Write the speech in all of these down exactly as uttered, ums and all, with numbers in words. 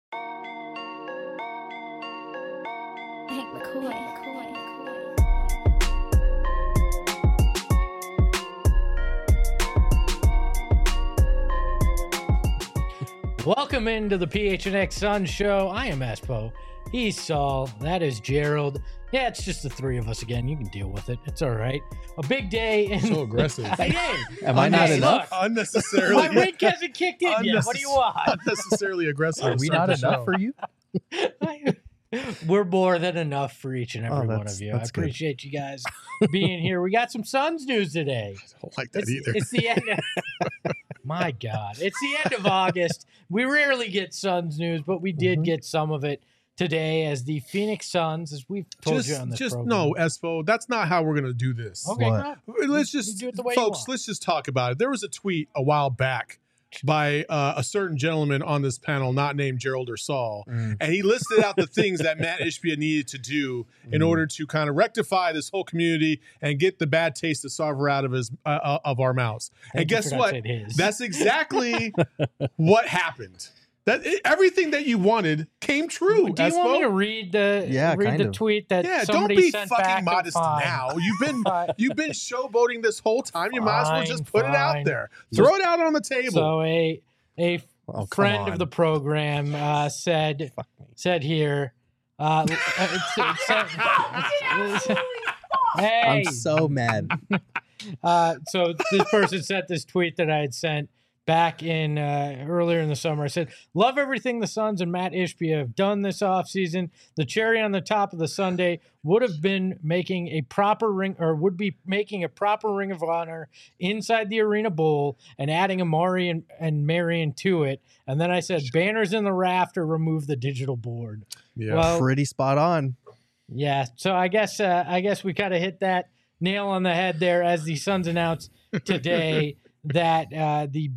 Hank McCoy. Welcome into the P H N X Suns show. I am Espo. He's Saul. That is Gerald. Yeah, it's just the three of us again. You can deal with it. It's all right. A big day. In- So aggressive. Hey, Am I not hey, enough? look, Unnecessarily. my wink hasn't kicked in yet. What do you want? Unnecessarily aggressive. Are we not enough for you? We're more than enough for each and every Oh, one that's- of you. I that's good. appreciate you guys being here. We got some Suns news today. I don't like that It's, either. it's the end of, my God. It's the end of August. We rarely get Suns news, but we did Mhm. get some of it today as the Phoenix Suns, as we've told just you on this just program. no, Espo. That's not how we're gonna do this. Okay, What? no. Let's You just, do it the way you folks. want. Let's just talk about it. There was a tweet a while back by uh, a certain gentleman on this panel, not named Gerald or Saul, Mm. and he listed out the things that Matt Ishbia needed to do in Mm. order to kind of rectify this whole community and get the bad taste of Sarver out of his uh, uh, of our mouths. Thank and you guess for not what? saying his. That's exactly what happened. That everything that you wanted came true. Do you want me Espo. to read the Yeah, read kind the of. tweet that Yeah, don't somebody be sent fucking back? modest Fine. now. You've been Fine. you've been showboating this whole time. You might as well just Fine, put it out fine. there. Throw it out on the table. So a a Oh, come friend of on. the program uh, said said here. Uh, it's, it's, it's, it's- hey, I'm so mad. uh, so this person sent this tweet that I had sent back in uh, earlier in the summer. I said, "Love everything the Suns and Matt Ishbia have done this offseason. The cherry on the top of the sundae would have been making a proper ring, or would be making a proper Ring of Honor inside the Arena Bowl and adding Amari and, and Marion to it." And then I said, "Banners in the rafter, remove the digital board." yeah. Well, Pretty spot on. yeah, so I guess uh, I guess we kind of hit that nail on the head there as the Suns announced today that uh, the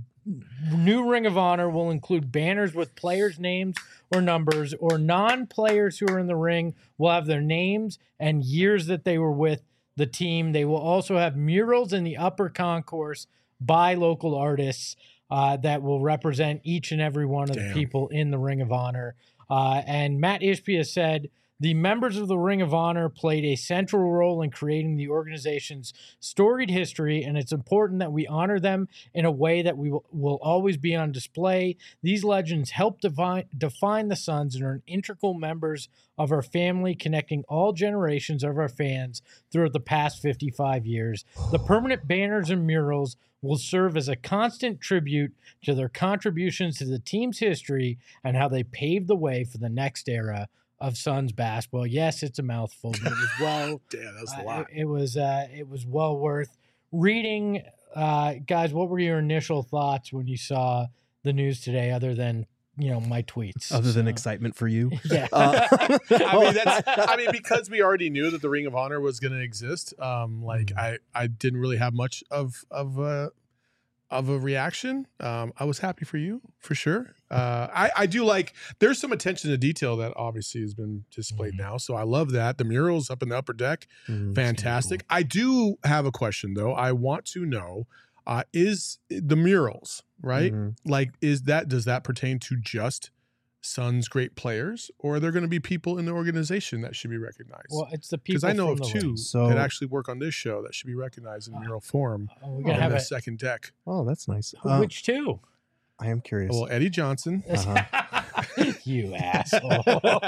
new Ring of Honor will include banners with players' names or numbers, or non-players who are in the ring will have their names and years that they were with the team. They will also have murals in the upper concourse by local artists uh, that will represent each and every one of Damn. the people in the Ring of Honor. Uh, and Matt Ishbia said, "The members of the Ring of Honor played a central role in creating the organization's storied history, and it's important that we honor them in a way that we will, will always be on display. These legends help define, define the Suns and are integral members of our family, connecting all generations of our fans throughout the past fifty-five years. The permanent banners and murals will serve as a constant tribute to their contributions to the team's history and how they paved the way for the next era of Suns basketball." Yes, it's a mouthful, but it was well. Damn, that's a uh, lot. it, it was uh, it was well worth reading. Uh, guys, what were your initial thoughts when you saw the news today, other than you know my tweets? Other than So, excitement for you. yeah. Uh, I mean, that's. I mean, because we already knew that the Ring of Honor was going to exist. Um, like Mm. I, I didn't really have much of of uh, of a reaction. Um, I was happy for you for sure. Uh, I, I do like. There's some attention to detail that obviously has been displayed Mhm. now, so I love that. The murals up in the upper deck, Mm, fantastic. I do have a question though. I want to know: uh, is the murals right? Mhm. Like, is that does that pertain to just Suns great players, or are there going to be people in the organization that should be recognized? Well, it's the Because people. I know from of the two ring. So- that actually work on this show that should be recognized in mural form Oh, we're on gonna have the a second deck. Oh, that's nice. Uh, which two? I am curious. Well, Eddie Johnson. Uh-huh. You asshole.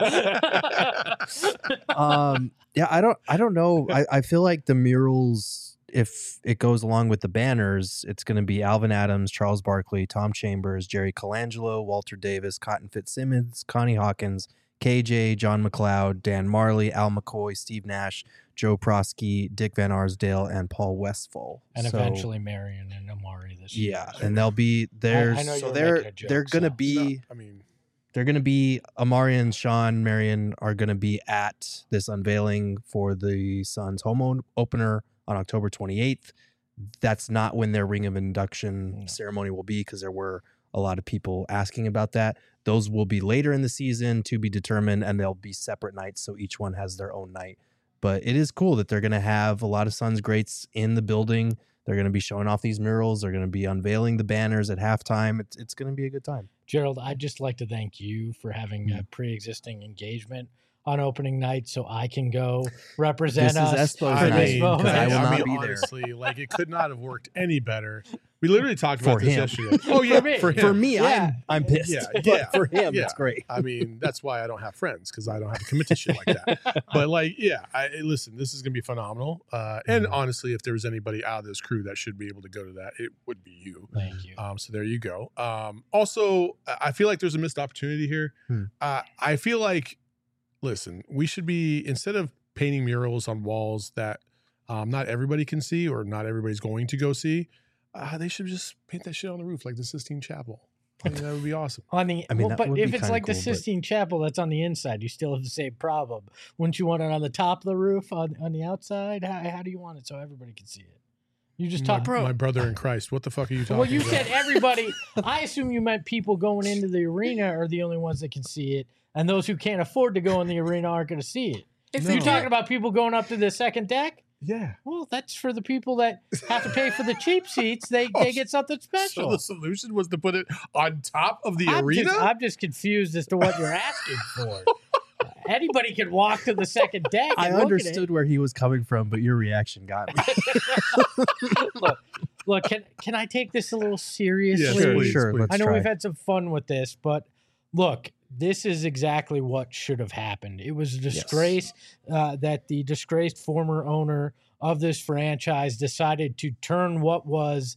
um, yeah, I don't, I don't know. I, I feel like the murals, if it goes along with the banners, it's going to be Alvin Adams, Charles Barkley, Tom Chambers, Jerry Colangelo, Walter Davis, Cotton Fitzsimmons, Connie Hawkins, K J, John McLeod, Dan Marley, Al McCoy, Steve Nash, Joe Prosky, Dick Van Arsdale, and Paul Westphal. and So, eventually Marion and Amari this year. yeah, and they'll be there. I know you So were they're making a joke, they're gonna so- be. I mean, They're going to be Amari and Sean Marion are going to be at this unveiling for the Suns home o- opener on October twenty-eighth. That's not when their ring of induction No. ceremony will be, because there were a lot of people asking about that. Those will be later in the season to be determined, and they'll be separate nights, so each one has their own night. But it is cool that they're going to have a lot of Suns greats in the building. They're going to be showing off these murals. They're going to be unveiling the banners at halftime. It's, it's going to be a good time. Gerald, I'd just like to thank you for having a pre-existing engagement on opening night, so I can go represent This is us Espo's for I this mean, moment. I will I not mean, be there. honestly, like it could not have worked any better. We literally talked For about this him. yesterday. Oh yeah, For me. for him. For me, Yeah. I'm I'm pissed. Yeah, But yeah, for him, yeah. it's great. I mean, that's why I don't have friends because I don't have to commit to shit like that. But like, yeah, I listen. This is gonna be phenomenal. Uh, and honestly, if there was anybody out of this crew that should be able to go to that, it would be you. Thank you. Um, so there you go. Um, also, I feel like there's a missed opportunity here. Hmm. Uh, I feel like, listen, we should be, instead of painting murals on walls that um, not everybody can see or not everybody's going to go see, uh, they should just paint that shit on the roof like the Sistine Chapel. I mean, that would be awesome. On the, I mean, well, that but would if be it's kinda like the cool, but- Sistine Chapel that's on the inside, you still have the same problem. Wouldn't you want it on the top of the roof on, on the outside? How, how do you want it so everybody can see it? You just My, talk, my brother in Christ. What the fuck are you talking Well, you about? said everybody. I assume you meant people going into the arena are the only ones that can see it, and those who can't afford to go in the arena aren't going to see it. If No. they You're do talking it- about people going up to the second deck? Yeah. Well, that's for the people that have to pay for the cheap seats. They Oh, they get something So special. the solution was to put it on top of the I'm arena? Just, I'm just confused as to what you're asking for. Anybody can walk to the second deck. I And look understood where he was coming from, but your reaction got me. At it. Look, look. Can can I take this a little seriously? Yes, Sure, please, sure, please. let's I know try. we've had some fun with this, but look, this is exactly what should have happened. It was a disgrace uh, that the disgraced former owner of this franchise decided to turn what was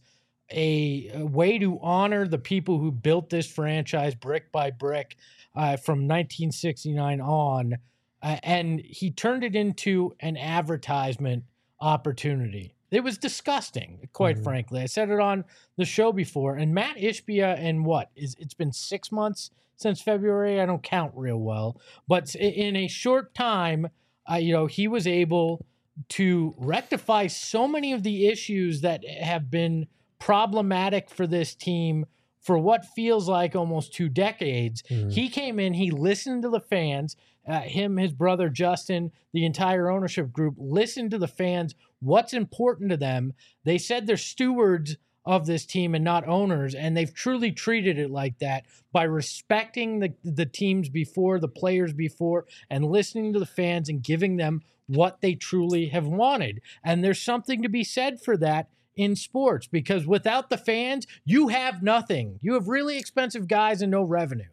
a, a way to honor the people who built this franchise brick by brick uh, from nineteen sixty-nine on, uh, and he turned it into an advertisement opportunity. It was disgusting, quite Mhm. frankly. I said it on the show before. And Matt Ishbia, and what is it's been six months since February. I don't count real well, but i- in a short time, uh, you know, he was able to rectify so many of the issues that have been problematic for this team for what feels like almost two decades. Mhm. He came in, he listened to the fans, uh, him, his brother Justin, the entire ownership group listened to the fans, what's important to them. They said they're stewards of this team and not owners, and they've truly treated it like that by respecting the, the teams before, the players before, and listening to the fans and giving them what they truly have wanted. And there's something to be said for that in sports, because without the fans, you have nothing. You have really expensive guys and no revenue.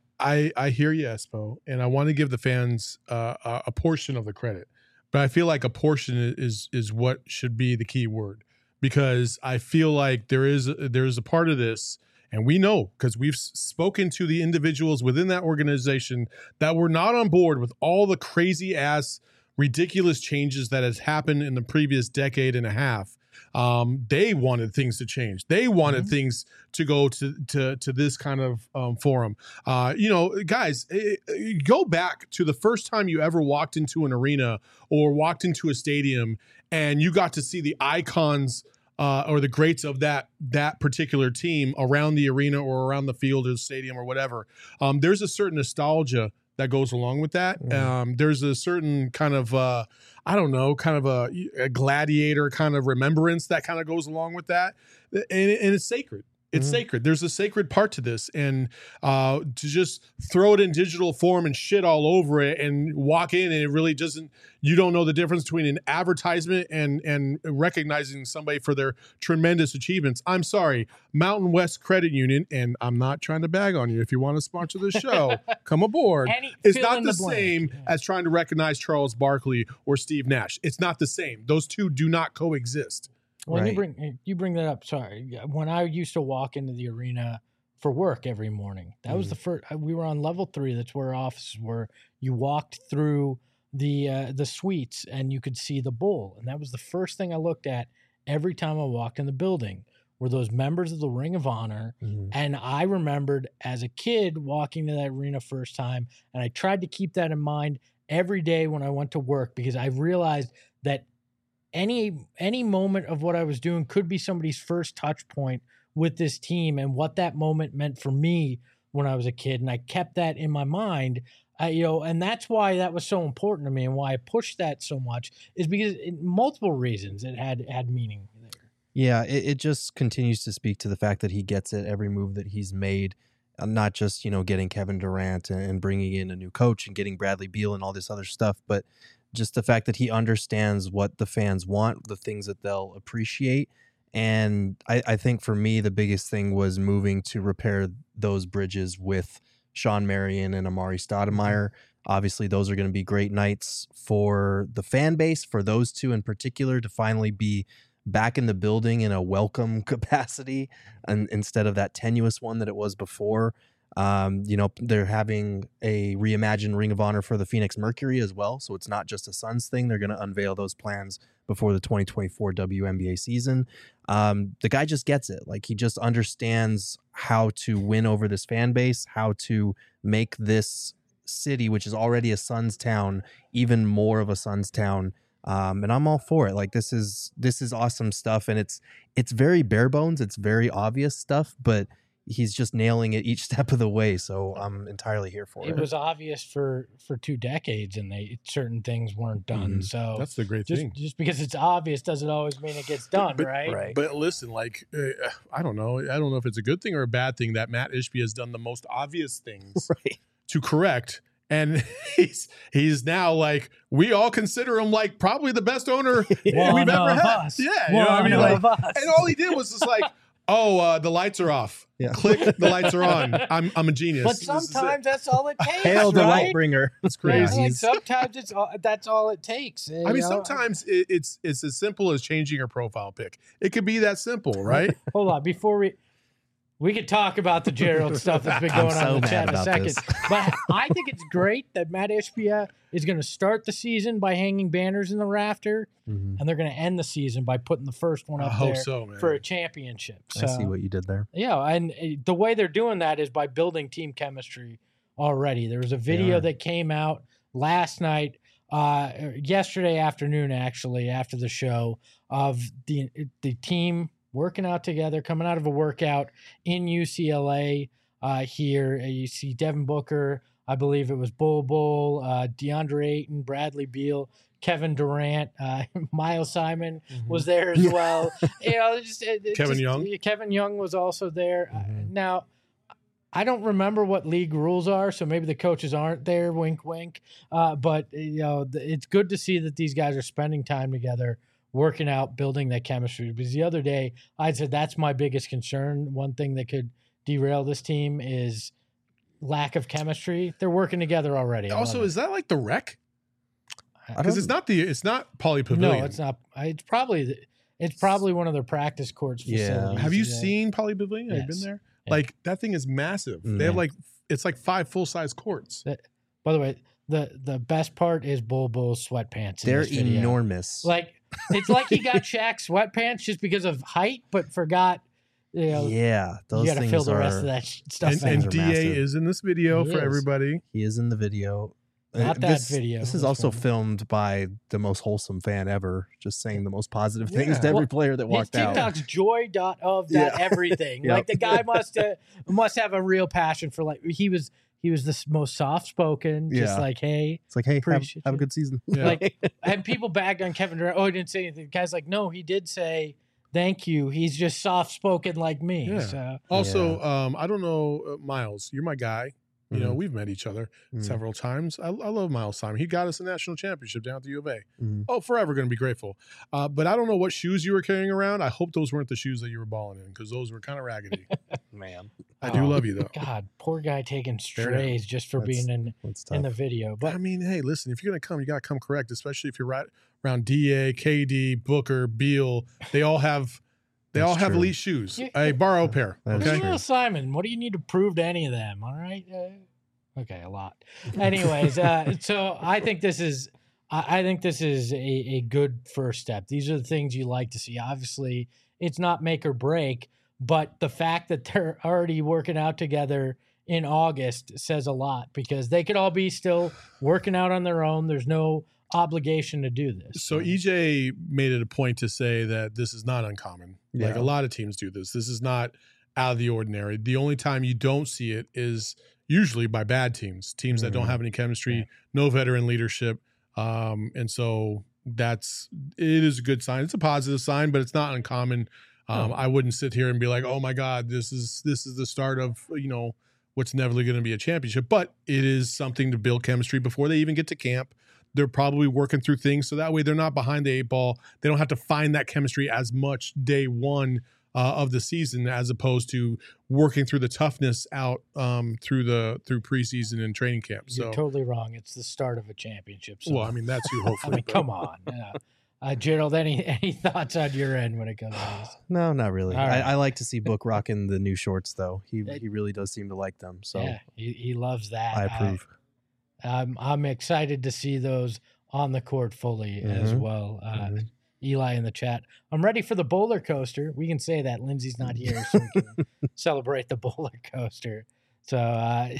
I, I hear you, Espo, and I want to give the fans uh, a, a portion of the credit, but I feel like a portion is is what should be the key word, because I feel like there is there is a part of this, and we know because we've spoken to the individuals within that organization that were not on board with all the crazy ass, ridiculous changes that has happened in the previous decade and a half. Um, they wanted things to change. They wanted Mhm. things to go to to to this kind of um, forum. Uh, you know, guys, eh, eh, go back to the first time you ever walked into an arena or walked into a stadium, and you got to see the icons uh, or the greats of that that particular team around the arena or around the field or the stadium or whatever. Um, there's a certain nostalgia that goes along with that. Mm. Um, there's a certain kind of, uh, I don't know, kind of a, a gladiator kind of remembrance that kind of goes along with that. And, and it's sacred. It's Mhm. sacred. There's a sacred part to this. And uh, to just throw it in digital form and shit all over it and walk in and it really doesn't, you don't know the difference between an advertisement and, and recognizing somebody for their tremendous achievements. I'm sorry, Mountain West Credit Union, and I'm not trying to bag on you. If you want to sponsor the show, come aboard. Any, It's fill not in the, blank. same Yeah. as trying to recognize Charles Barkley or Steve Nash. It's not the same. Those two do not coexist. When you Right. bring you bring that up, sorry. When I used to walk into the arena for work every morning, that was Mhm. the first. We were on level three. That's where our offices were. You walked through the uh, the suites and you could see the bowl, and that was the first thing I looked at every time I walked in the building. Were those members of the Ring of Honor? Mhm. And I remembered as a kid walking to that arena first time, and I tried to keep that in mind every day when I went to work, because I realized that any any moment of what I was doing could be somebody's first touch point with this team, and what that moment meant for me when I was a kid. And I kept that in my mind, I, you know, and that's why that was so important to me, and why I pushed that so much is because it, multiple reasons it had had meaning there. Yeah, it, it just continues to speak to the fact that he gets it every move that he's made. uh, not just, you know, getting Kevin Durant and, and bringing in a new coach and getting Bradley Beal and all this other stuff, but just the fact that he understands what the fans want, the things that they'll appreciate. And I, I think for me, the biggest thing was moving to repair those bridges with Sean Marion and Amari Stoudemire. Obviously, those are going to be great nights for the fan base, for those two in particular, to finally be back in the building in a welcome capacity, and instead of that tenuous one that it was before. Um, you know, they're having a reimagined Ring of Honor for the Phoenix Mercury as well. So it's not just a Suns thing. They're going to unveil those plans before the twenty twenty-four W N B A season. Um, the guy just gets it. Like, he just understands how to win over this fan base, how to make this city, which is already a Suns town, even more of a Suns town. Um, and I'm all for it. Like, this is, this is awesome stuff. And it's, it's very bare bones. It's very obvious stuff, but he's just nailing it each step of the way. So I'm entirely here for it. It was obvious for, for two decades, and they certain things weren't done. Mm-hmm. So that's the great just, thing. Just because it's obvious doesn't always mean it gets done, but, right? Right. But listen, like, uh, I don't know. I don't know if it's a good thing or a bad thing that Matt Ishbia has done the most obvious things Right. to correct. And he's he's now like, we all consider him like probably the best owner One we've ever of had. us. Yeah, you know what I One mean? Like, of us. and all he did was just like, oh, uh, the lights are off. Yeah. Click, the lights are on. I'm I'm a genius. But This is it. sometimes that's all it takes. Hail the right? light bringer. It's Yeah, crazy. like sometimes it's all, that's all it takes. I mean, sometimes it, it's it's as simple as changing your profile pic. It could be that simple, right? Hold on, before we we could talk about the Gerald stuff that's been I'm going on so in the mad chat in a about second. this. But I think it's great that Matt Ishbia is going to start the season by hanging banners in the rafter, Mhm. and they're going to end the season by putting the first one I up hope there so, man. for a championship. So, I see what you did there. yeah, and uh, the way they're doing that is by building team chemistry already. There was a video are. that came out last night, uh, yesterday afternoon, actually, after the show, of the the team working out together, coming out of a workout in U C L A uh, here. You see Devin Booker, I believe it was Bol Bol, uh, DeAndre Ayton, Bradley Beal, Kevin Durant, uh, Miles Simon was there as well. You know, just, it, it Kevin just- Young? Kevin Young was also there. Uh, Mhm. now, I don't remember what league rules are, so maybe the coaches aren't there. Wink, wink. Uh, but you know, th- it's good to see that these guys are spending time together, working out, building that chemistry. Because the other day, I said that's my biggest concern. One thing that could derail this team is lack of chemistry. They're working together already. I Also, love is that like the rec? it. Because it's not the it's not Poly Pavilion. no, it's not. It's probably the- it's probably one of their practice courts Yeah. facilities. Have you yeah. seen Poly Pavilion? Have you Yes. been there? Yeah. Like, that thing is massive. They have Yeah. like it's like five full size courts. By the way, the the best part is Bol Bol's sweatpants. In They're this video. enormous. Like, it's like he got Shaq's sweatpants just because of height, but forgot. You know, yeah, those you got to things fill the are. rest of that sh- stuff And, in. and are D A massive. is in this video He for is. everybody. He is in the video. Not Uh, that this, video. This is This also one. filmed by the most wholesome fan ever, just saying the most positive things Yeah. to every Well, player that His walked out. TikTok's joy dot of that Yeah. everything. Yep. Like, the guy must uh, must have a real passion for, like, he was he was the s- most soft spoken, just Yeah. like, hey. It's like, hey, have, Appreciate have a you. good season. Yeah. Like, and people bagged on Kevin Durant. Oh, he didn't say anything. The guy's like, no, he did say thank you. He's just soft spoken like me. Yeah. So Also, um, I don't know, uh, Miles, you're my guy. You know, Mhm. we've met each other Mhm. several times. I, I love Miles Simon. He got us a national championship down at the U of A. Mhm. Oh, forever going to be grateful. Uh, but I don't know what shoes you were carrying around. I hope those weren't the shoes that you were balling in, because those were kind of raggedy. Man, I do Oh, love you, though. God, poor guy taking Fair enough. strays just for That's being in that's in tough. the video. But I mean, hey, listen, if you're going to come, you got to come correct, especially if you're right around D A, K D, Booker, Beal. They all have they That's all have true. elite shoes. You- Hey, borrow a pair. That is Okay. true. Well, Simon, what do you need to prove to any of them? All right. Uh, okay, a lot. Anyways, uh, so I think this is, I, I think this is a, a good first step. These are the things you like to see. Obviously, it's not make or break, but the fact that they're already working out together in August says a lot, because they could all be still working out on their own. There's no obligation to do this. So E J made it a point to say that this is not uncommon. Like, Yeah. a lot of teams do this. This is not out of the ordinary. The only time you don't see it is usually by bad teams, teams that don't Mhm. have any chemistry, Yeah. no veteran leadership. Um, and so that's, it is a good sign. It's a positive sign, but it's not uncommon. Um, No. I wouldn't sit here and be like, oh my God, this is, this is the start of, you know, what's never going to be a championship, but it is something to build chemistry before they even get to camp. They're probably working through things so that way they're not behind the eight ball. They don't have to find that chemistry as much day one uh, of the season, as opposed to working through the toughness out um, through the through preseason and training camp. So You're totally wrong. It's the start of a championship. So. well, I mean that's you I hopefully. mean, come on. Yeah. Uh, Gerald, any any thoughts on your end when it comes to this? No, not really. All right. I, I like to see Book rocking the new shorts, though. He That- he really does seem to like them. So Yeah, he, he loves that. I approve. I, I'm I'm excited to see those on the court fully as Mhm. well. Uh, Mhm. Eli in the chat. I'm ready for the bowler coaster. We can say that Lindsay's not here, so we can celebrate the bowler coaster. So uh,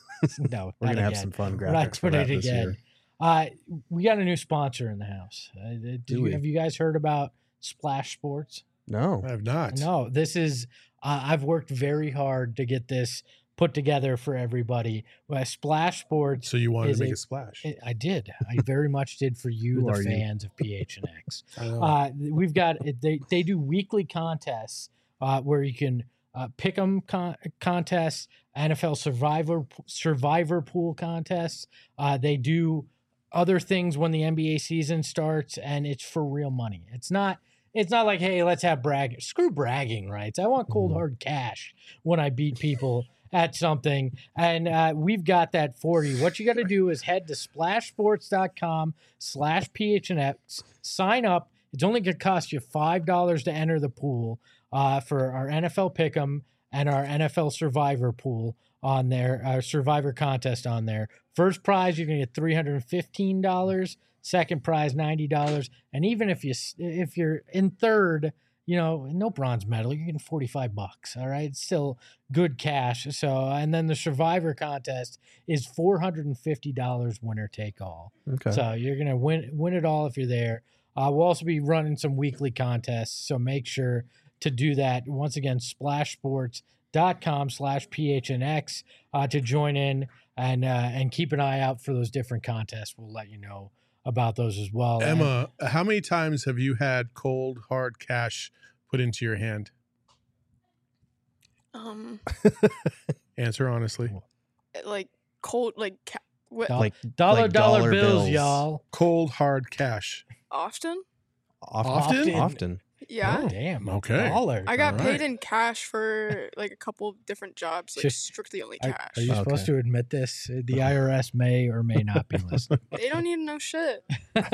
no, We're not gonna have again. some fun We're not graphics for doing that it this again. year. Uh, we got a new sponsor in the house. Uh, did Do you, we? have you guys heard about Splash Sports? No, I have not. No, this is. Uh, I've worked very hard to get this put together for everybody. Well, Splash Sports. So you wanted Is to make a- a splash? I I did. I very much did for you, Who the are you? fans of P H N X. I know. Uh, we've got they they do weekly contests uh, where you can uh, pick 'em con- contests, N F L Survivor Survivor Pool contests. Uh, they do other things when the N B A season starts, and it's for real money. It's not. It's not like, hey, let's have brag. Screw bragging rights. I want cold Mhm. hard cash when I beat people at something. And uh, we've got that for you. What you got to do is head to splashsports.com slash PHNX. Sign up. It's only going to cost you five dollars to enter the pool uh, for our N F L Pick'em and our N F L Survivor pool on there, our Survivor contest on there. First prize, you're going to get three hundred fifteen dollars. Second prize, ninety dollars. And even if you if you're in third, you know, no bronze medal, you're getting forty-five bucks. All right. It's still good cash. So, and then the Survivor contest is four hundred fifty dollars winner take all. okay. So you're going to win win it all if you're there. Uh, we'll also be running some weekly contests. So make sure to do that. Once again, splashsports.com slash PHNX uh, to join in and, uh, and keep an eye out for those different contests. We'll let you know about those as well. And- Emma, how many times have you had cold hard cash put into your hand? Um, Answer honestly. like cold, like ca- what, Dol- Like dollar, like dollar, dollar bills, bills. y'all. Cold hard cash. often? often, Often? often. Yeah. Oh, damn. Okay. Dollar. I got All paid right. in cash for like a couple of different jobs, like Just- strictly only Are, cash. are you Okay. supposed to admit this? The I R S may or may not be listening. They don't need to know shit.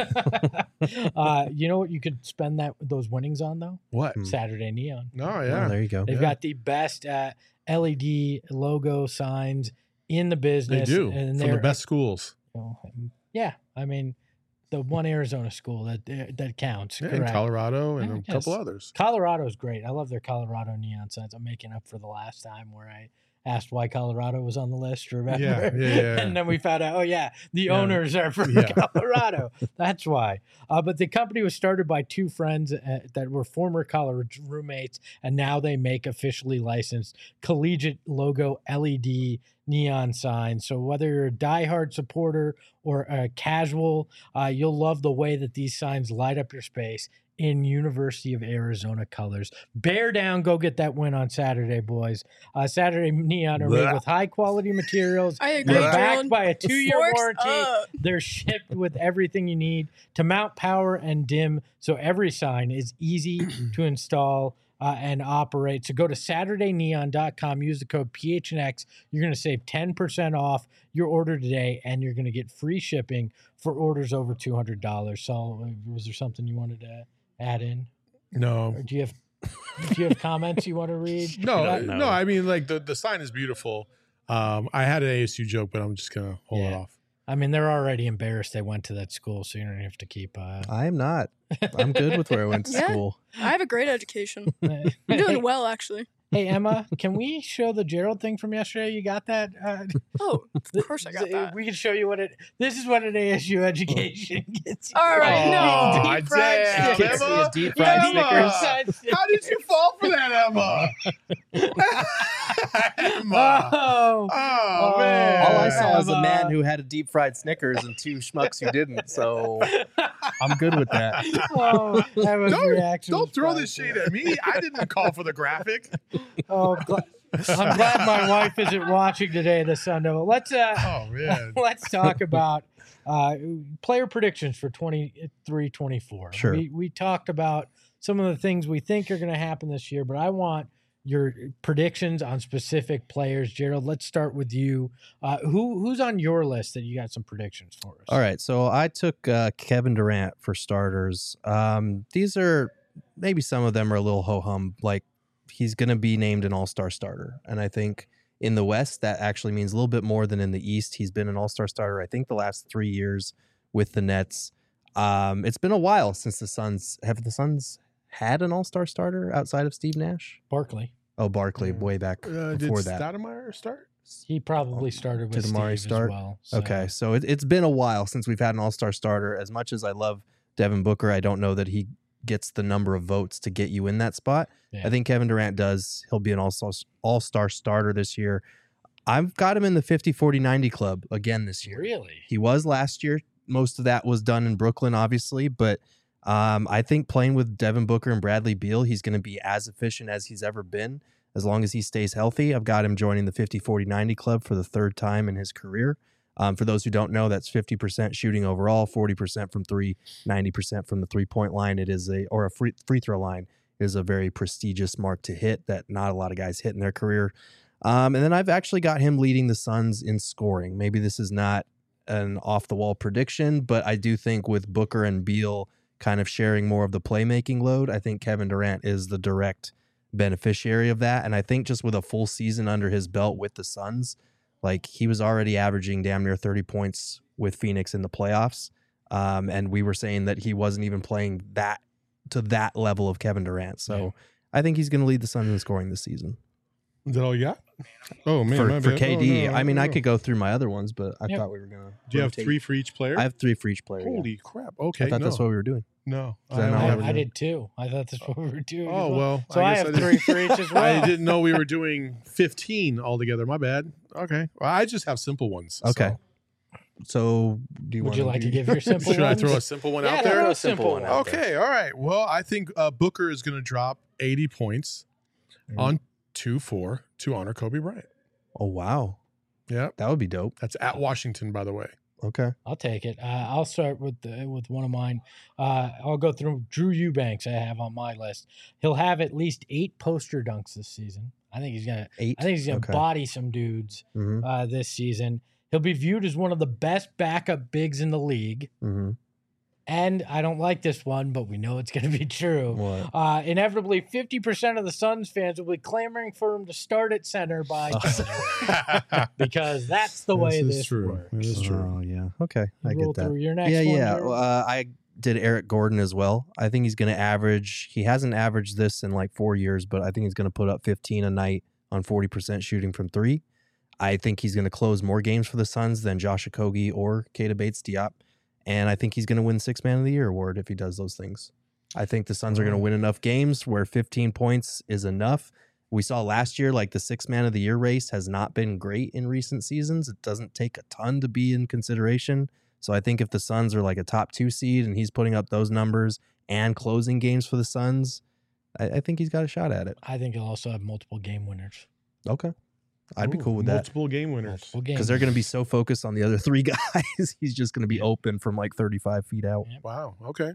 uh, you know what you could spend that those winnings on though? What? Hmm. Saturday Neon. No, Oh, yeah. there you go. They've Yeah. got the best uh, L E D logo signs in the They business. do. and From the they're- best schools. well, yeah, I mean, the one Arizona school that that counts. Yeah, in correct. Colorado and Yeah, a couple yes. others. Colorado's great. I love their Colorado neon signs. I'm making up for the last time where I asked why Colorado was on the list. Remember? Yeah, yeah, yeah. And then we found out, oh yeah, the Yeah. owners are from Yeah. Colorado. That's why. Uh, but the company was started by two friends uh, that were former college roommates, and now they make officially licensed collegiate logo L E D neon signs. So whether you're a diehard supporter or a casual, uh, you'll love the way that these signs light up your space in University of Arizona colors. Bear down, go get that win on Saturday, boys. Uh, Saturday Neon are made Blah. with high quality materials. I agree, They're Blah. backed Gerald. by a two-year Forks warranty. up. They're shipped with everything you need to mount, power, and dim, so every sign is easy to install uh, and operate. So go to saturday neon dot com, use the code P H N X. You're going to save ten percent off your order today, and you're going to get free shipping for orders over two hundred dollars. So uh, was there something you wanted to add in? No. Or do you have do you have comments you want to read? No, Uh, no, No. I mean, like the, the sign is beautiful. Um, I had an A S U joke, but I'm just gonna hold it Yeah. off. I mean, they're already embarrassed they went to that school, so you don't have to keep. Uh, I am not. I'm good with where I went to Yeah. school. I have a great education. I'm hey, doing well, actually. hey, Emma, can we show the Gerald thing from yesterday? You got that? Uh, Oh, of course I got th- that. We can show you what it. This is what an A S U education gets. you. All right, no. Deep fried Damn, Snickers. Emma. Deep Yeah, fried Emma. Snickers. How did you fall for that, Emma? Emma. Oh, Oh, Oh. man. All I saw was a Emma. man who had a deep fried Snickers and two schmucks who didn't. So I'm good with that. oh, that was Don't- reaction. Don't was throw this priceless. shade at me. I didn't call for the graphic. Oh, gl- I'm glad my wife isn't watching today. The Sun Devil. Let's uh, Oh man. let's talk about uh, player predictions for twenty-three twenty-four. Sure. We we talked about some of the things we think are going to happen this year, but I want your predictions on specific players. Gerald, let's start with you. Uh, who who's on your list that you got some predictions for us? All right, so I took uh, Kevin Durant for starters. Um, these are maybe some of them are a little ho hum. Like he's going to be named an All Star starter, and I think in the West that actually means a little bit more than in the East. He's been an All Star starter, I think, the last three years with the Nets. Um, it's been a while since the Suns have the Suns had an All Star starter outside of Steve Nash. Barkley. Oh, Barkley, Yeah. way back Uh, did before that. Stoudemire start? He probably started with Did Amari Steve start? as well. so- Okay, so it, it's been a while since we've had an all-star starter. As much as I love Devin Booker, I don't know that he gets the number of votes to get you in that spot. Yeah. I think Kevin Durant does. He'll be an all-star, all-star starter this year. I've got him in the fifty forty ninety club again this year. Really? He was last year. Most of that was done in Brooklyn, obviously, but um, I think playing with Devin Booker and Bradley Beal, he's going to be as efficient as he's ever been. As long as he stays healthy, I've got him joining the fifty forty ninety club for the third time in his career. Um, for those who don't know, that's fifty percent shooting overall, forty percent from three, ninety percent from the three-point line. It is a, or a free, free throw line is a very prestigious mark to hit that not a lot of guys hit in their career. Um, and then I've actually got him leading the Suns in scoring. Maybe this is not an off-the-wall prediction, but I do think with Booker and Beal kind of sharing more of the playmaking load, I think Kevin Durant is the direct beneficiary of that. And I think just with a full season under his belt with the Suns, like he was already averaging damn near thirty points with Phoenix in the playoffs. Um, and we were saying that he wasn't even playing that to that level of Kevin Durant. So Yeah. I think he's going to lead the Suns in scoring this season. Is that all you got? Oh man, for my for bad. K D, Oh, no, I mean, no. I could go through my other ones, but I Yep. thought we were going to. Do you have three for each player? I have three for each player. yeah. Holy crap! Okay, I thought no, that's what we were doing. no. Is that I not only I, have- what I did too. I thought that's what we were doing. as Oh well. So I, guess have didn't- three for each as well. I didn't know we were doing fifteen altogether. My bad. Okay. Well, I just have simple ones. Okay. so- So, do you Would want you like to give your simple Should I ones? throw a simple one Yeah, out throw there? a simple one out Okay. All right. Well, I think uh, Booker is going to drop eighty points Mhm. on two four to honor Kobe Bryant. Oh, wow. Yeah. That would be dope. That's at Washington, by the way. Okay. I'll take it. Uh, I'll start with the, with one of mine. Uh, I'll go through Drew Eubanks. I have on my list. He'll have at least eight poster dunks this season. I think he's gonna. Eight. I think he's gonna Okay. body some dudes Mm-hmm. uh, this season. He'll be viewed as one of the best backup bigs in the league. Mm-hmm. And I don't like this one, but we know it's going to be true. What? Uh, inevitably, fifty percent of the Suns fans will be clamoring for him to start at center by January because that's the way This is this true. works. It is true. Oh, yeah. Okay. I Roll get that. through your next yeah, one. yeah. Jared. Uh, I did Eric Gordon as well. I think he's going to average. He hasn't averaged this in like four years, but I think he's going to put up fifteen a night on forty percent shooting from three. I think he's going to close more games for the Suns than Josh Okogie or Keita Bates-Diop. And I think he's going to win Six Man of the Year award if he does those things. I think the Suns are going to win enough games where fifteen points is enough. We saw last year, like the Six Man of the Year race has not been great in recent seasons. It doesn't take a ton to be in consideration. So I think if the Suns are like a top two seed and he's putting up those numbers and closing games for the Suns, I, I think he's got a shot at it. I think he'll also have multiple game winners. Okay. I'd be Ooh, cool with that. Multiple game winners. Multiple games. Because they're going to be so focused on the other three guys. He's just going to be open from like thirty-five feet out. Wow. Okay.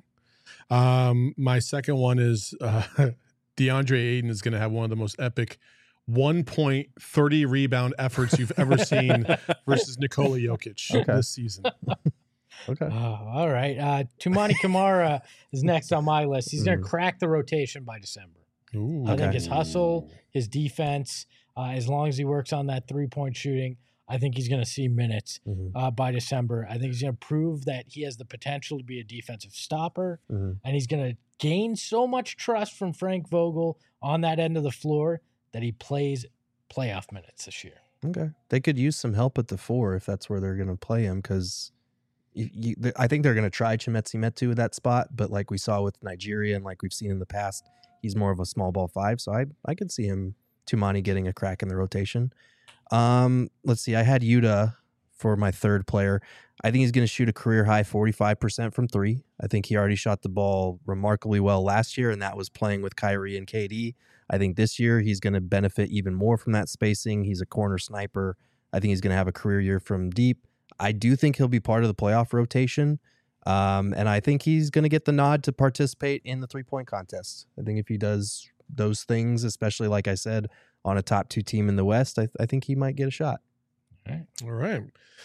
Um, my second one is uh, DeAndre Ayton is going to have one of the most epic one point thirty rebound efforts you've ever seen versus Nikola Jokic Okay. this season. Okay. Oh, all right. Uh, Tumani Kamara is next on my list. He's going Mm. to crack the rotation by December. Ooh. I think Okay. his hustle, his defense, uh, as long as he works on that three-point shooting, I think he's going to see minutes Mhm. uh, by December. I think he's going to prove that he has the potential to be a defensive stopper, Mhm. and he's going to gain so much trust from Frank Vogel on that end of the floor that he plays playoff minutes this year. Okay. They could use some help at the four if that's where they're going to play him because you, you, th- I think they're going to try Chimezie Metu at that spot. But like we saw with Nigeria and like we've seen in the past, he's more of a small ball five. So I I could see him, Tumani, getting a crack in the rotation. Um, let's see. I had Yuta for my third player. I think he's going to shoot a career high forty-five percent from three. I think he already shot the ball remarkably well last year, and that was playing with Kyrie and K D. I think this year he's going to benefit even more from that spacing. He's a corner sniper. I think he's going to have a career year from deep. I do think he'll be part of the playoff rotation. Um, and I think he's going to get the nod to participate in the three-point contest. I think if he does those things, especially, like I said, on a top two team in the West, I, th- I think he might get a shot. All right.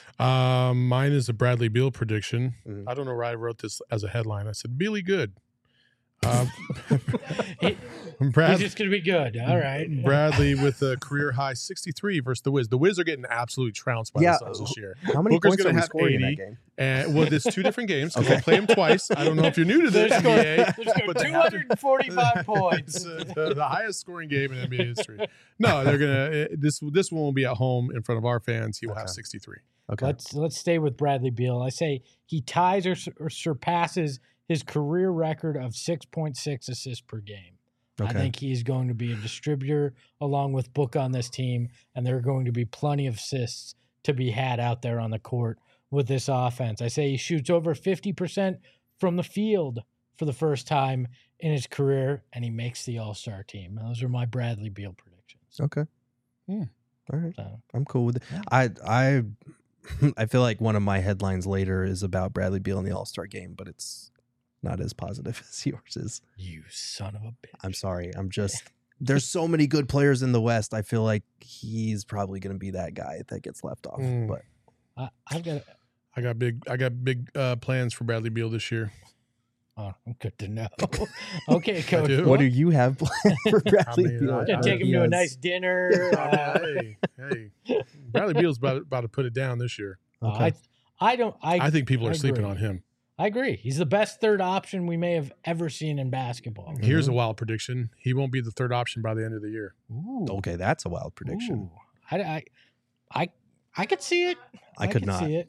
Um, mine is a Bradley Beal prediction. Mhm. I don't know why I wrote this as a headline. I said, Bealy good. Um, He- Brad, He's just gonna be good. All right. Bradley with a career high sixty-three versus the Wiz. The Wiz are getting absolutely trounced by Yeah. the Suns this year. How many Booker's points gonna are we have scoring in eighty. that game? And well, there's two different games. So Okay. We'll play them twice. I don't know if you're new to this N B A, There's but they two have to- hundred forty-five It's points. uh, the, the highest scoring game in N B A history. No, they're gonna. uh, This this one will be at home in front of our fans. He will have Okay. sixty-three. Okay. Let's let's stay with Bradley Beal. I say he ties or, sur- or surpasses his career record of six point six assists per game. I Okay. think he's going to be a distributor along with Book on this team, and there are going to be plenty of assists to be had out there on the court with this offense. I say he shoots over fifty percent from the field for the first time in his career, and he makes the All-Star team. Those are my Bradley Beal predictions. Okay. Hmm. All right. So, I'm cool with it. Yeah. I I I feel like one of my headlines later is about Bradley Beal in the All-Star game, but it's not as positive as yours is. you son of a bitch. I'm sorry. I'm just there's so many good players in the West. I feel like he's probably going to be that guy that gets left off. Mm. But I, I've got. I got big. I got big uh, plans for Bradley Beal this year. Oh, good to know. Okay, Coach. do. what do you have planned for Bradley mean, Beal? I- Gonna I- take him to a Yes. nice dinner. Uh, hey, hey, Bradley Beal's about, about to put it down this year. Okay. I, I don't. I, I think people are I sleeping agree. on him. I agree. He's the best third option we may have ever seen in basketball. Here's a wild prediction: he won't be the third option by the end of the year. Ooh. Okay, that's a wild prediction. Ooh. I, I, I, I could see it. I could not. see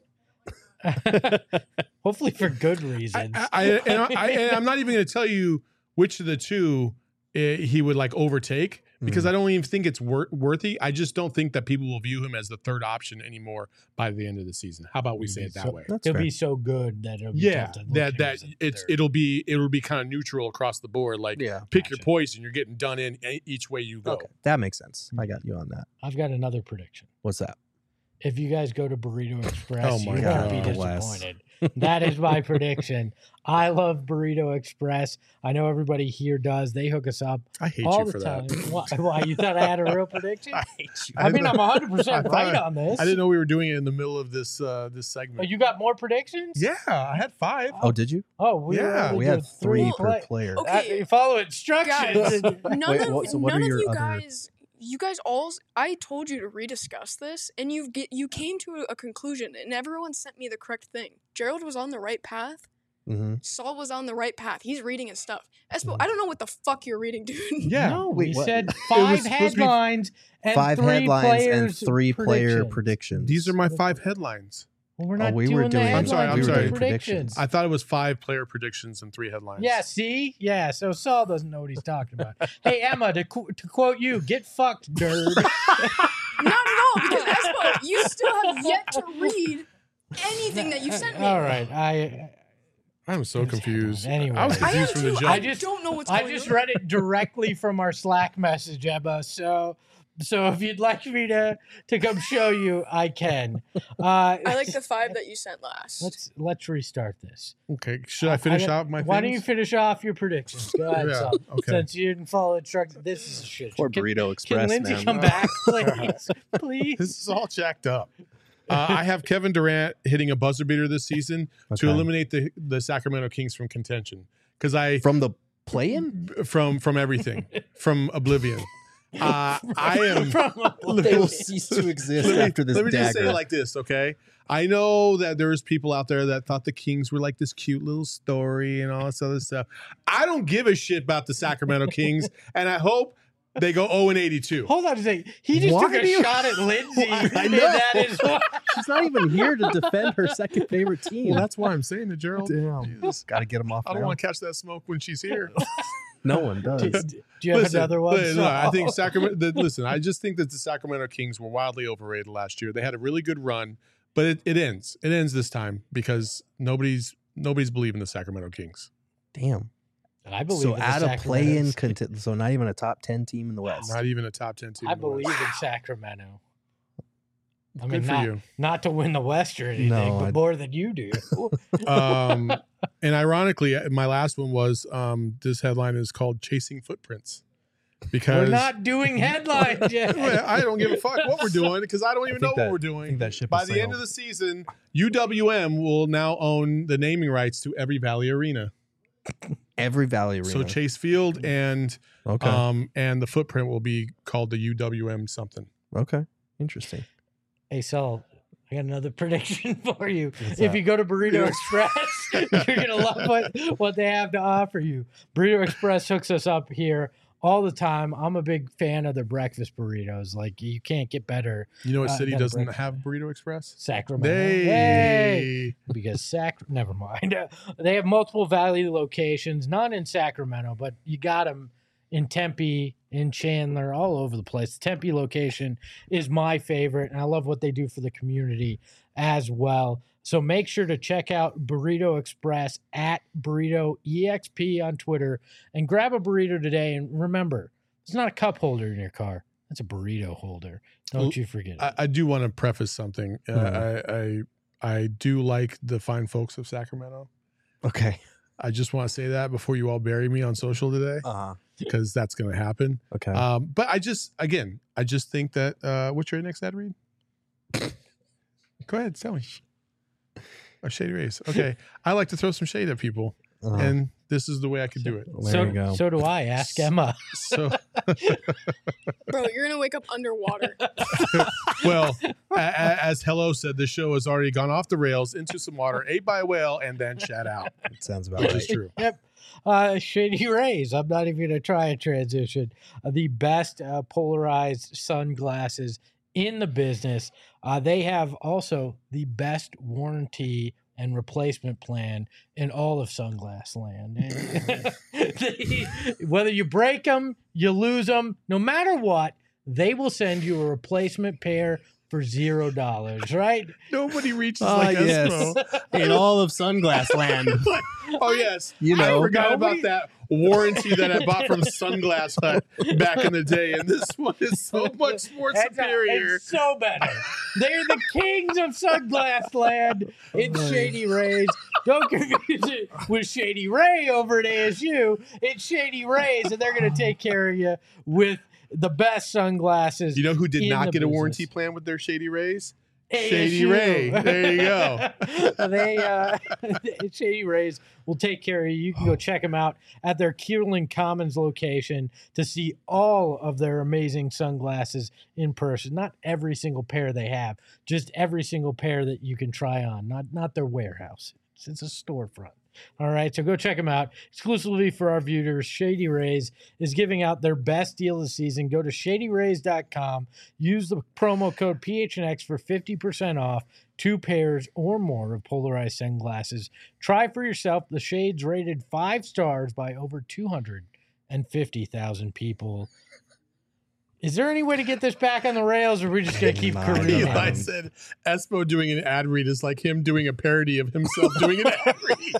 it. Hopefully for good I, reasons. I, I, and I, I, and I'm not even going to tell you which of the two uh, he would like overtake because Mhm. I don't even think it's wor- worthy. I just don't think that people will view him as the third option anymore by the end of the season. How about we say it that So- way? That's He'll fair. be so good that it'll be Yeah, tough to look that at him that as a it's third. it'll be it'll be kind of neutral across the board. Like yeah. pick your Gotcha. poison. You're getting done in e- each way you go. Okay, that makes sense. I got you on that. I've got another prediction. What's that? If you guys go to Burrito Express, Oh you my won't be God, Wes. disappointed. That is my prediction. I love Burrito Express. I know everybody here does. They hook us up I hate all you the for time. that. Why, why? You thought I had a real prediction? I hate you. I mean, I'm one hundred percent I right thought- on this. I didn't know we were doing it in the middle of this uh, this Oh, segment. you got more predictions? Yeah, I had five. Oh, did you? Oh, we were Yeah, able to We do had three three per play- player. Okay. Uh, you follow instructions. Guys, none Wait, of what- so what none are of your you other- guys, you guys all. I told you to rediscuss this, and you get you came to a conclusion, and everyone sent me the correct thing. Gerald was on the right path. Mm-hmm. Saul was on the right path. He's reading his stuff. Espo, Mhm. I don't know what the fuck you're reading, dude. Yeah. No, Wait, we what? said was five supposed to be headlines and Five three headlines and players three player predictions. predictions. These are my five headlines. Well, we're Oh, not we doing were the doing- I'm headlines. sorry, I'm we're sorry. doing Predictions. I thought it was five player predictions and three headlines. Yeah, see? Yeah, so Saul doesn't know what he's talking about. Hey, Emma, to, qu- to quote you, get fucked, nerd. Not at all, because Espo, you still have yet to read anything that you sent me. All right, I I'm so confused. Anyway. I was I am confused from the too. jump. I I just- don't know what's I going just on. read it directly from our Slack message, Emma. So, so if you'd like me to to come show you, I can. Uh, I like the five that you sent last. let's let's restart this. Okay, should I finish got- off my? Why don't you things? finish off your predictions? Go ahead, Yeah, Saul. okay. Since you didn't follow instructions, this is a shit. Poor Can- Burrito Can Express, Lindsay man. come back, please? Please. This is all jacked up. Uh, I have Kevin Durant hitting a buzzer beater this season to Okay. eliminate the the Sacramento Kings from contention because I From the play-in? from from everything from oblivion. Uh, I am. They will cease to exist Let me, after this let me just say dagger. it like this, okay? I know that there's people out there that thought the Kings were like this cute little story and all this other stuff. I don't give a shit about the Sacramento Kings, and I hope they go oh and eighty-two. Hold on a second. He just Why took a do you- shot at Lindsay. I and know. That is why. She's not even here to defend her second favorite team. Well, that's why I'm saying it, Gerald. Damn. Jesus. Got to get him off I don't now. want to catch that smoke when she's here. No one does. Do, do you have Listen, another one? listen, no, I Saul? think Sacramento. The, listen, I just think that the Sacramento Kings were wildly overrated last year. They had a really good run, but it, it ends. It ends this time because nobody's nobody's believing the Sacramento Kings. Damn. I believe So in the at a play-in, Sacramento's- conti- so not even a top ten team in the West. Not even a top ten team. I in the West. believe in Sacramento. I Good mean, for not, you. not to win the West or anything, No, but I- more than you do. Um, and ironically, my last one was um, this headline is called "Chasing Footprints," because We're not doing headlines yet. Well, I don't give a fuck what we're doing because I don't even I think know that- what we're I doing. think that ship By has the end sailed. of the season, U W M will now own the naming rights to every Valley arena. Every Valley Arena. So Chase Field and okay. um and the footprint will be called the U W M something. okay. Interesting. Hey, Saul, I got another prediction for you. What's if that? you go to Burrito Express, you're going to love what, what they have to offer you. Burrito Express hooks us up here all the time. I'm a big fan of their breakfast burritos. Like, you can't get better. You know what Uh, city got a doesn't breakfast. have Burrito Express? Sacramento. They. Hey! Because Sac, never mind. They have multiple Valley locations, none in Sacramento, but you got them in Tempe, in Chandler, all over the place. The Tempe location is my favorite, and I love what they do for the community as well. So make sure to check out Burrito Express at Burrito E X P on Twitter and grab a burrito today. And remember, it's not a cup holder in your car. That's a burrito holder. Don't Well, you forget it. I, I do want to preface something. Uh, Mhm. I, I I do like the fine folks of Sacramento. Okay. I just want to say that before you all bury me on social today, Uh-huh. because that's going to happen. Okay. Um, but I just, again, I just think that. Uh, what's your next ad read? Go ahead, tell me. Oh, Shady Rays. Okay, I like to throw some shade at people, Uh-huh. and this is the way I could do it. there so, you go. so do I. Ask Emma. So, Bro, you're gonna wake up underwater. well, a- a- as Hello said, the show has already gone off the rails into some water, ate by a whale, and then shat out, That sounds about which right. is true. Yep. Uh, Shady Rays. I'm not even going to try a transition. Uh, the best uh, polarized sunglasses in the business. Uh, they have also the best warranty and replacement plan in all of sunglass land. They- whether you break them, you lose them, no matter what, they will send you a replacement pair for zero dollars, right? Nobody reaches Ah, like yes. Espo. In all of Sunglass Land. Oh yes, You know. I forgot Nobody- about that warranty that I bought from Sunglass Hut back in the day, and this one is so much more It's, uh, superior. it's so better. They're the kings of sunglass land. It's Shady Rays. Don't confuse it with Shady Ray over at A S U. It's Shady Rays, and they're going to take care of you with the best sunglasses. You know who did in not the get a warranty business. plan with their Shady Rays? A S U. Shady Ray. There you go. they uh, Shady Rays will take care of you. You can go check them out at their Kierland Commons location to see all of their amazing sunglasses in person. Not every single pair they have, just every single pair that you can try on. Not not their warehouse. It's, it's a storefront. All right, so go check them out. Exclusively for our viewers, Shady Rays is giving out their best deal of the season. Go to shady rays dot com. Use the promo code P H N X for fifty percent off two pairs or more of polarized sunglasses. Try for yourself. The shades rated five stars by over two hundred fifty thousand people. Is there any way to get this back on the rails, or are we just going to keep I don't careening? know. Eli said Espo doing an ad read is like him doing a parody of himself doing an ad read.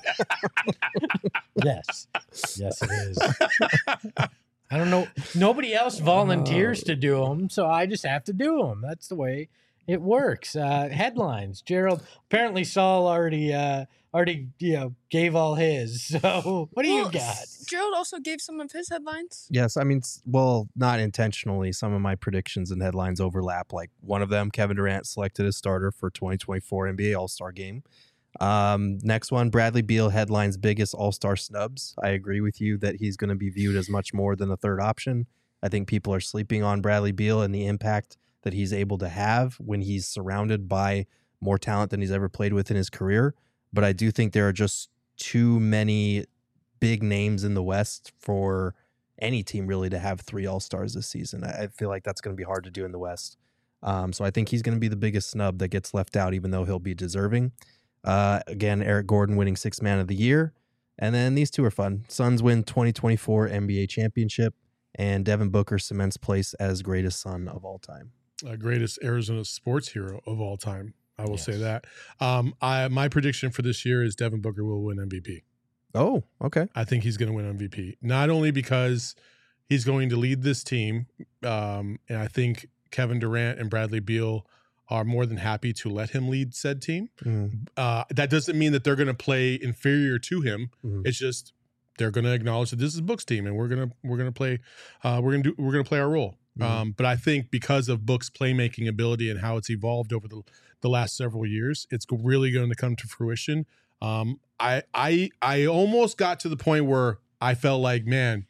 Yes. Yes, it is. I don't know. Nobody else volunteers to do them, so I just have to do them. That's the way it works. Uh, headlines. Gerald, apparently Saul already uh, already you know gave all his. So what do you Well, got? Gerald also gave some of his headlines. Yes, I mean, s- well, not intentionally. Some of my predictions and headlines overlap. Like one of them, Kevin Durant selected as starter for twenty twenty-four N B A All-Star Game. Um, next one, Bradley Beal headlines biggest All-Star snubs. I agree with you that he's going to be viewed as much more than the third option. I think people are sleeping on Bradley Beal and the impact that he's able to have when he's surrounded by more talent than he's ever played with in his career. But I do think there are just too many big names in the West for any team really to have three All-Stars this season. I I feel like that's going to be hard to do in the West. Um, so I think he's going to be the biggest snub that gets left out, even though he'll be deserving. Uh, again, Eric Gordon winning Sixth Man of the Year. And then these two are fun. Suns win twenty twenty-four N B A Championship, and Devin Booker cements place as greatest Sun of all time. Uh, greatest Arizona sports hero of all time. I will say Yes. that. Um, I my prediction for this year is Devin Booker will win M V P. Oh, okay. I think he's going to win M V P. Not only because he's going to lead this team, um, and I think Kevin Durant and Bradley Beal are more than happy to let him lead said team. Mm. Uh, that doesn't mean that they're going to play inferior to him. Mhm. It's just they're going to acknowledge that this is Book's team, and we're gonna we're gonna play uh, we're gonna do we're gonna play our role. Mhm. Um, but I think because of Book's playmaking ability and how it's evolved over the the last several years, it's really going to come to fruition. Um, I I I almost got to the point where I felt like, man,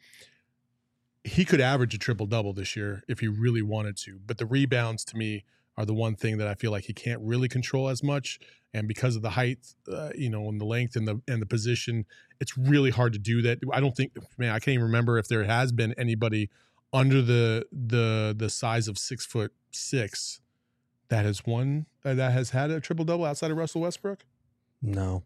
he could average a triple double this year if he really wanted to. But the rebounds to me are the one thing that I feel like he can't really control as much. And because of the height, uh, you know, and the length and the and the position, it's really hard to do that. I don't think, man, I can't even remember if there has been anybody under the the the size of six foot six that has won uh, that has had a triple double outside of Russell Westbrook. No.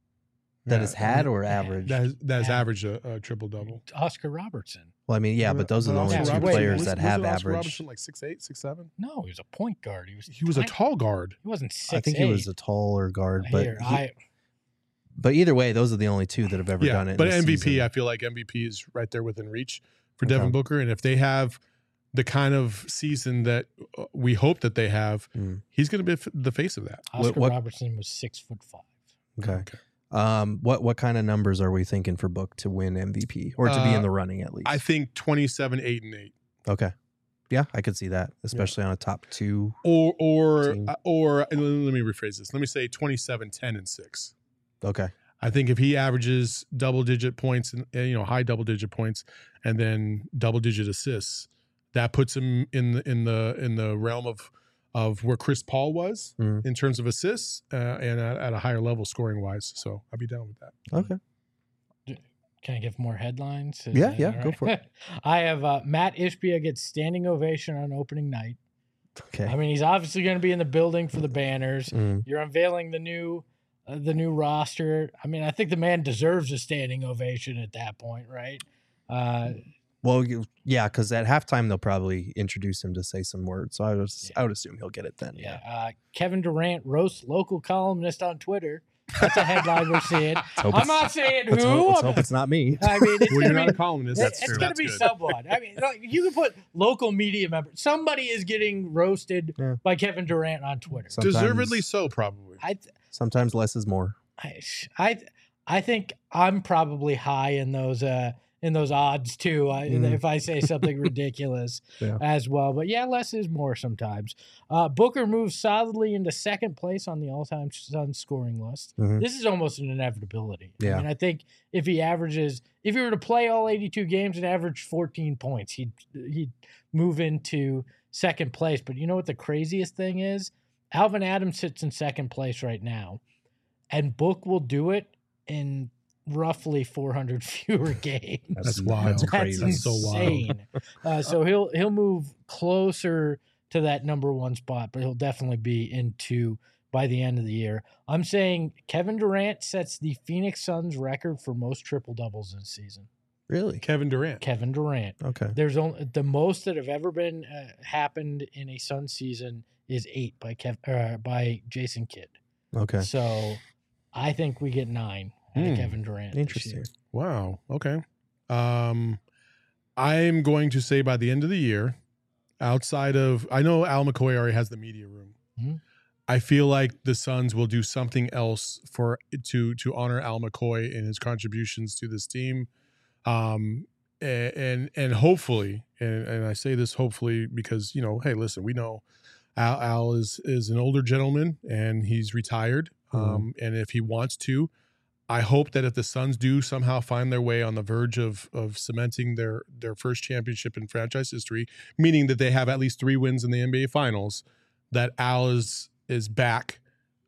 That Yeah, has had or Yeah, averaged? That has, that has Yeah. averaged a, a triple double. Oscar Robertson. Well, I mean, yeah, but those are the only Oscar two Robertson players was- that was have Oscar averaged. Robertson like six eight, six seven. No, he was a point guard. He was. He was a tiny. tall guard. He wasn't six. I think he was a taller guard, but Here, he- I but either way, those are the only two that have ever Yeah, done it. but this M V P, season. I feel like M V P is right there within reach for Okay. Devin Booker, and if they have the kind of season that uh, we hope that they have, Mm. he's going to be f- the face of that. Oscar what- Robertson was six foot five. Okay. Um, what what kind of numbers are we thinking for Book to win M V P or to be Uh, in the running at least? I think twenty-seven, eight, and eight, okay. Yeah, I could see that, especially on a top two. or or Team. uh, or and let me rephrase this. Let me say twenty-seven, ten, and six. Okay. I think if he averages double digit points and you know high double digit points and then double digit assists, that puts him in the in the in the realm of of where Chris Paul was Mhm. in terms of assists uh, and at, at a higher level scoring wise. So I'd be down with that. Okay. Can I give more headlines? Is Yeah, that yeah, all go for it. I have uh, Matt Ishbia gets standing ovation on opening night. Okay. I mean, he's obviously going to be in the building for the banners. Mm. You're unveiling the new uh, the new roster. I mean, I think the man deserves a standing ovation at that point, right? Uh, Well, you, yeah, because at halftime they'll probably introduce him to say some words. So I would, Yeah. I would assume he'll get it then. yeah. Yeah. Uh, Kevin Durant roasts local columnist on Twitter. That's a headline we're seeing. hope I'm it's- not saying Let's, who. hope, let's I'm- hope it's not me. I mean, it's Well, gonna you're not be a columnist. It's, That's it's true. going That's to be good. someone. I mean, like, you can put local media members. Somebody is getting roasted Yeah. by Kevin Durant on Twitter. Sometimes- Deservedly so, probably. I, th- Sometimes less is more. I, I, I think I'm probably high in those uh in those odds too. I, Mm. If I say something ridiculous Yeah. as well, but yeah, less is more sometimes. Uh, Booker moves solidly into second place on the all-time Suns scoring list. Mhm. This is almost an inevitability. Yeah. I mean, I think if he averages, if he were to play all eighty-two games and average fourteen points, he'd he'd move into second place. But you know what the craziest thing is? Alvin Adams sits in second place right now, and Book will do it in roughly four hundred fewer games. That's wild. That's crazy. That's so wild. insane. uh, so he'll he'll move closer to that number one spot, but he'll definitely be into by the end of the year. I'm saying Kevin Durant sets the Phoenix Suns record for most triple doubles this season. Really? Kevin Durant. Kevin Durant. Okay. There's only the most that have ever been uh, happened in a Sun season is eight by Kev uh, by Jason Kidd. Okay. So I think we get nine out of Hmm. Kevin Durant. this Interesting. year. Wow. Okay. Um, I'm going to say by the end of the year, outside of, I know Al McCoy already has the media room. Mhm. I feel like the Suns will do something else for to to honor Al McCoy and his contributions to this team. Um, a- and and hopefully, and, and I say this hopefully because you know, hey, listen, we know Al, Al is is an older gentleman and he's retired. Um, and if he wants to, I hope that if the Suns do somehow find their way on the verge of of cementing their their first championship in franchise history, meaning that they have at least three wins in the N B A Finals, that Al is is back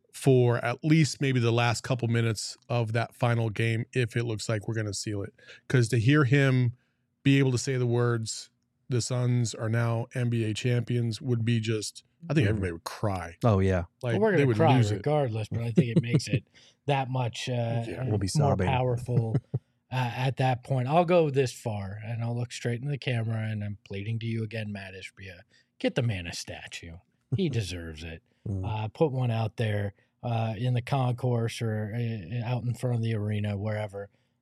for at least maybe the last couple minutes of that final game if it looks like we're going to seal it. Because to hear him be able to say the words, the Suns are now N B A champions, would be just, I think everybody would cry. Oh yeah. Like Well, we're they going to would cry lose it. regardless, but I think it makes it that much uh, Yeah, we'll be more sobbing. powerful uh, at that point. I'll go this far, and I'll look straight in the camera, and I'm pleading to you again, Matt Ishbia. Get the man a statue. He deserves it. Mm. Uh, put one out there uh, in the concourse or uh, out in front of the arena, wherever.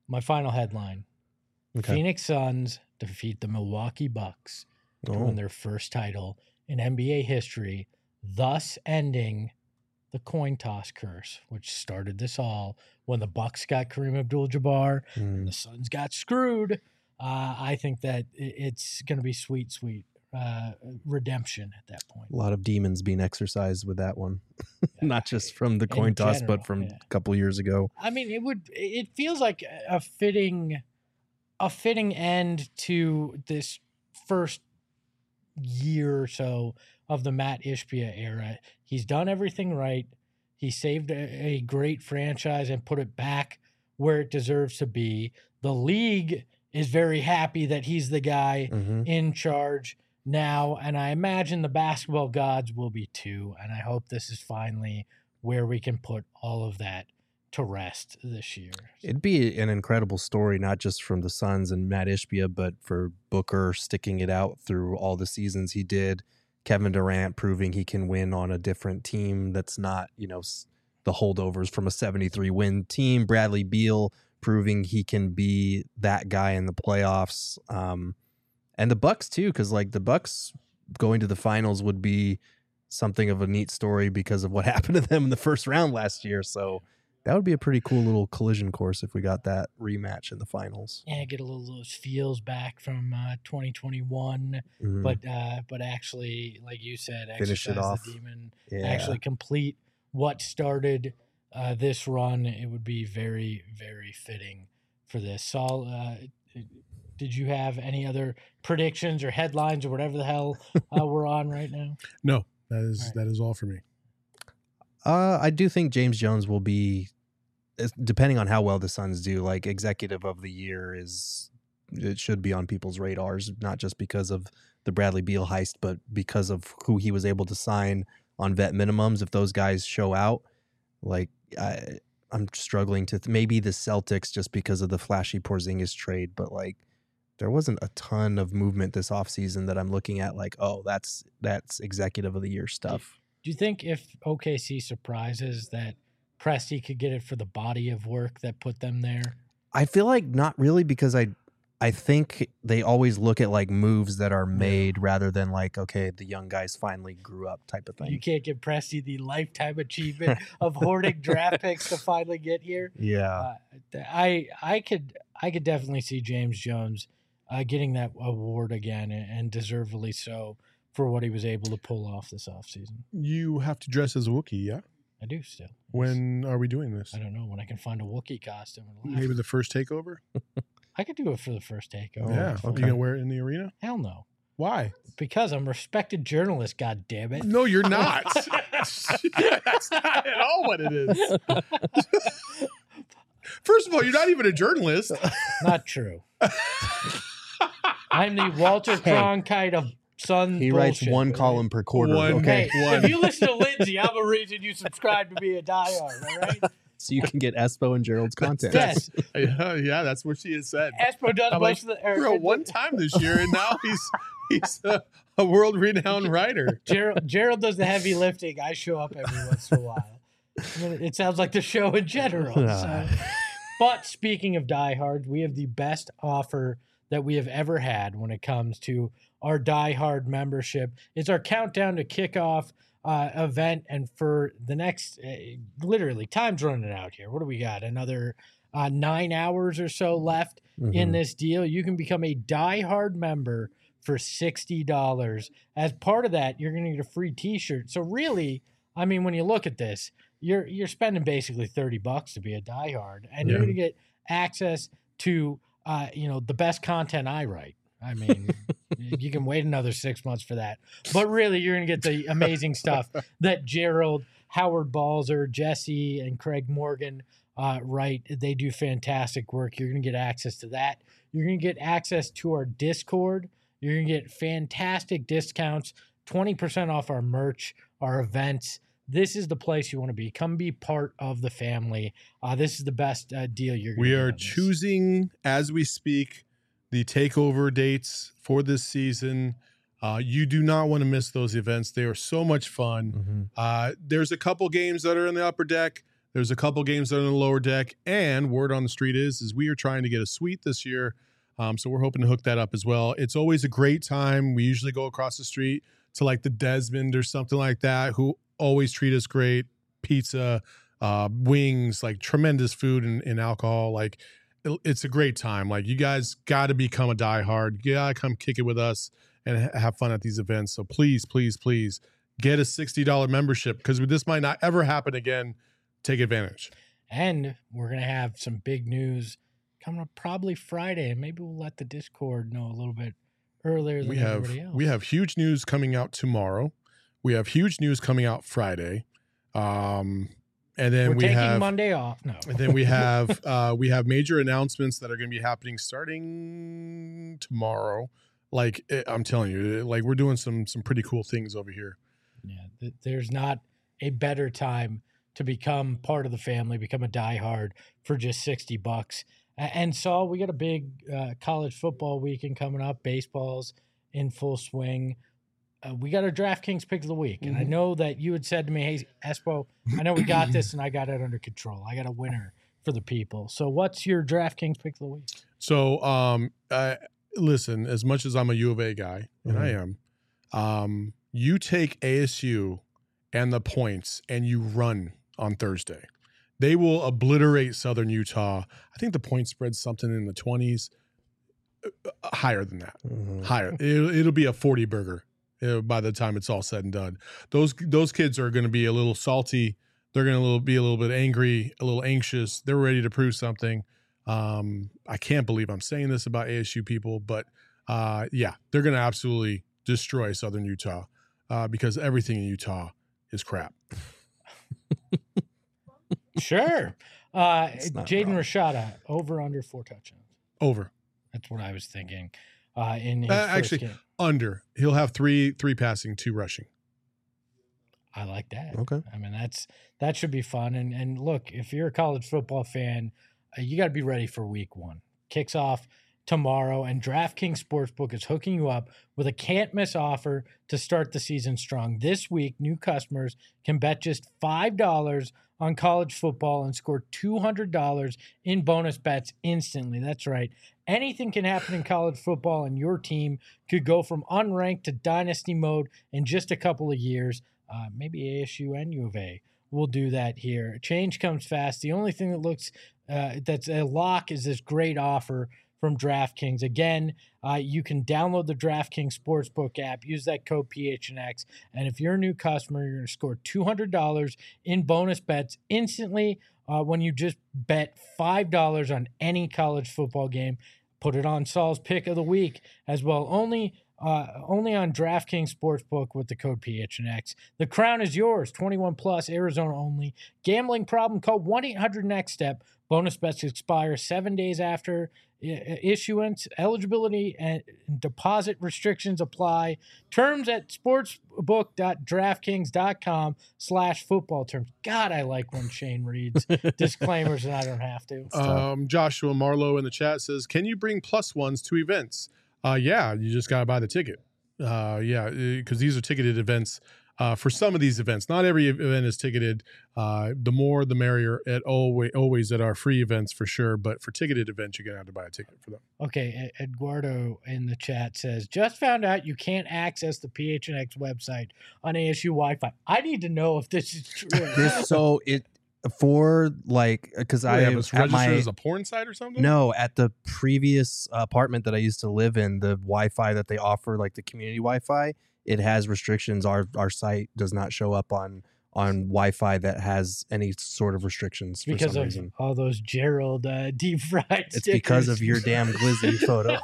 My final headline. Okay. Phoenix Suns defeat the Milwaukee Bucks to Oh. win their first title in N B A history, thus ending the coin toss curse, which started this all when the Bucks got Kareem Abdul-Jabbar and Mm. the Suns got screwed. Uh, I think that i- it's going to be sweet, sweet uh, redemption at that point. A lot of demons being exercised with that one. Not just from the coin In toss, general, but from yeah. a couple years ago. I mean, it would. It feels like a fitting, a fitting end to this first year or so of the Matt Ishbia era. He's done everything right. He saved a, a great franchise and put it back where it deserves to be. The league is very happy that he's the guy hmm in charge now, and I imagine the basketball gods will be too. And I hope this is finally where we can put all of that to rest this year. It'd be an incredible story, not just from the Suns and Matt Ishbia, but for Booker sticking it out through all the seasons he did. Kevin Durant proving he can win on a different team that's not, you know, s- the holdovers from a seventy-three win team. Bradley Beal proving he can be that guy in the playoffs. Um, and the Bucks too, because like the Bucks going to the finals would be something of a neat story because of what happened to them in the first round last year. So that would be a pretty cool little collision course if we got that rematch in the finals. Yeah, get a little those feels back from uh, twenty twenty-one, Mhm. but uh, but actually, like you said, Finish it exercise off. the demon, yeah. actually complete what started uh, this run. It would be very very fitting for this. Saul, uh, did you have any other predictions or headlines or whatever the hell uh, we're on right now? No, that is All right. that is all for me. Uh, I do think James Jones will be, es- depending on how well the Suns do, like executive of the year is, it should be on people's radars, not just because of the Bradley Beal heist, but because of who he was able to sign on vet minimums. If those guys show out, like I, I'm struggling to, th- maybe the Celtics just because of the flashy Porzingis trade, but like there wasn't a ton of movement this offseason that I'm looking at like, oh, that's that's executive of the year stuff. Do you think if O K C surprises that Presti could get it for the body of work that put them there? I feel like not really because I I think they always look at like moves that are made rather than like, okay, the young guys finally grew up type of You thing. can't give Presti the lifetime achievement of hoarding draft picks to finally get here. Yeah. Uh, I I could I could definitely see James Jones uh, getting that award again, and, and deservedly so for what he was able to pull off this offseason. You have to dress as a Wookiee, yeah? I do still. When are we doing this? I don't know when I can find a Wookiee costume. and Maybe laugh. the first takeover? I could do it for the first takeover. yeah. okay. You gonna wear it in the arena? Hell no, Why? because I'm a respected journalist. God damn it. No, you're not. That's not at all what it is. First of all, you're not even a journalist. Not true. I'm the Walter Hey. Cronkite of Sun. He writes bullshit, one all right? column per quarter. One. Okay. Hey, One. if you listen to Lindsay, I'm a reason you subscribe to be a diehard, all right? So you can get Espo and Gerald's content. Yes. yeah, yeah, that's what she has said. Espo does I'm most like, of the... or- Bro, one time this year, and now he's he's a, a world-renowned writer. Gerald, Gerald does the heavy lifting. I show up every once in a while. I mean, it sounds like the show in general. So. But speaking of diehards, we have the best offer that we have ever had when it comes to our diehard membership. It's our countdown to kickoff uh, event, and for the next, uh, literally, time's running out here. What do we got? Another uh, nine hours or so left in Mhm. this deal. You can become a diehard member for sixty dollars. As part of that, you're going to get a free T-shirt. So really, I mean, when you look at this, you're you're spending basically thirty bucks to be a diehard, and you're Yeah. going to get access to uh, you know the best content I write. I mean, you can wait another six months for that, but really, you're going to get the amazing stuff that Gerald, Howard Balzer, Jesse, and Craig Morgan uh, write. They do fantastic work. You're going to get access to that. You're going to get access to our Discord. You're going to get fantastic discounts, twenty percent off our merch, our events. This is the place you want to be. Come be part of the family. Uh, this is the best uh, deal you're going to We get are on this. choosing, as we speak, the takeover dates for this season. Uh, you do not want to miss those events. They are so much fun. Mhm. Uh, there's a couple games that are in the upper deck. There's a couple games that are in the lower deck, and word on the street is is we are trying to get a suite this year. Um, so we're hoping to hook that up as well. It's always a great time. We usually go across the street to like the Desmond or something like that, who always treat us great. Pizza, uh, wings, like tremendous food and, and alcohol. Like it, it's a great time. Like you guys got to become a diehard. You got to come kick it with us and ha- have fun at these events. So please, please, please get a sixty dollars membership because this might not ever happen again. Take advantage. And we're going to have some big news coming up probably Friday, and maybe we'll let the Discord know a little bit earlier than we have, everybody else. We have huge news coming out tomorrow. We have huge news coming out Friday. Um, and then we're we taking have Monday off. No. And then we have uh, we have major announcements that are going to be happening starting tomorrow. Like it, I'm telling you, like we're doing some some pretty cool things over here. Yeah, th- there's not a better time to become part of the family, become a diehard for just sixty bucks. And Saul, we got a big uh, college football weekend coming up. Baseball's in full swing. Uh, we got our DraftKings pick of the week. And I know that you had said to me, hey, Espo, I know we got this and I got it under control. I got a winner for the people. So what's your DraftKings pick of the week? So, um, uh, listen, as much as I'm a U of A guy, and Mhm. I am, um, you take A S U and the points and you run on Thursday. They will obliterate Southern Utah. I think the point spread's something in the twenties, uh, higher than that. Mhm. Higher. It'll, it'll be a forty burger uh, by the time it's all said and done. Those those kids are going to be a little salty. They're going to be a little bit angry, a little anxious. They're ready to prove something. Um, I can't believe I'm saying this about A S U people, but uh, yeah, they're going to absolutely destroy Southern Utah uh, because everything in Utah is crap. Sure. Uh, It's not Jaden wrong. Rashada, over under four touchdowns. Over. That's what I was thinking. Uh, in his Uh, first actually, game. under. He'll have three three passing, two rushing. I like that. Okay. I mean, that's that should be fun. And and look, if you're a college football fan, uh, you got to be ready for week one. Kicks off tomorrow, and DraftKings Sportsbook is hooking you up with a can't miss offer to start the season strong. This week, new customers can bet just five dollars on college football and score two hundred dollars in bonus bets instantly. That's right. Anything can happen in college football, and your team could go from unranked to dynasty mode in just a couple of years. Uh, maybe A S U and U of A will do that here. Change comes fast. The only thing that looks uh, that's a lock is this great offer from DraftKings. Again, uh, you can download the DraftKings Sportsbook app, use that code P H N X, and if you're a new customer, you're going to score two hundred dollars in bonus bets instantly uh, when you just bet five dollars on any college football game. Put it on Saul's pick of the week as well. Only uh, only on DraftKings Sportsbook with the code P H N X. The crown is yours. twenty-one plus, Arizona only. Gambling problem? Call one eight hundred next step. Bonus bets expire seven days after I- issuance. Eligibility and deposit restrictions apply. Terms at sportsbook.draftkings.com slash football terms. God, I like when Shane reads disclaimers and I don't have to. Um, Joshua Marlowe in the chat says, can you bring plus ones to events? Uh, yeah, you just got to buy the ticket. Uh, yeah, because these are ticketed events uh, for some of these events. Not every event is ticketed. Uh, the more, the merrier at always, always at our free events for sure. But for ticketed events, you're going to have to buy a ticket for them. Okay, E- Eduardo in the chat says, just found out you can't access the P H N X website on A S U Wi-Fi. I need to know if this is true. This, so it for like because What, I they have us at registered my as a porn site or something? no at the previous apartment that I used to live in, the Wi-Fi that they offer, like the community Wi-Fi, it has restrictions. Our our site does not show up on on Wi-Fi that has any sort of restrictions for because some of reason. all those Gerald uh, deep fried It's because of your damn glizzy photos.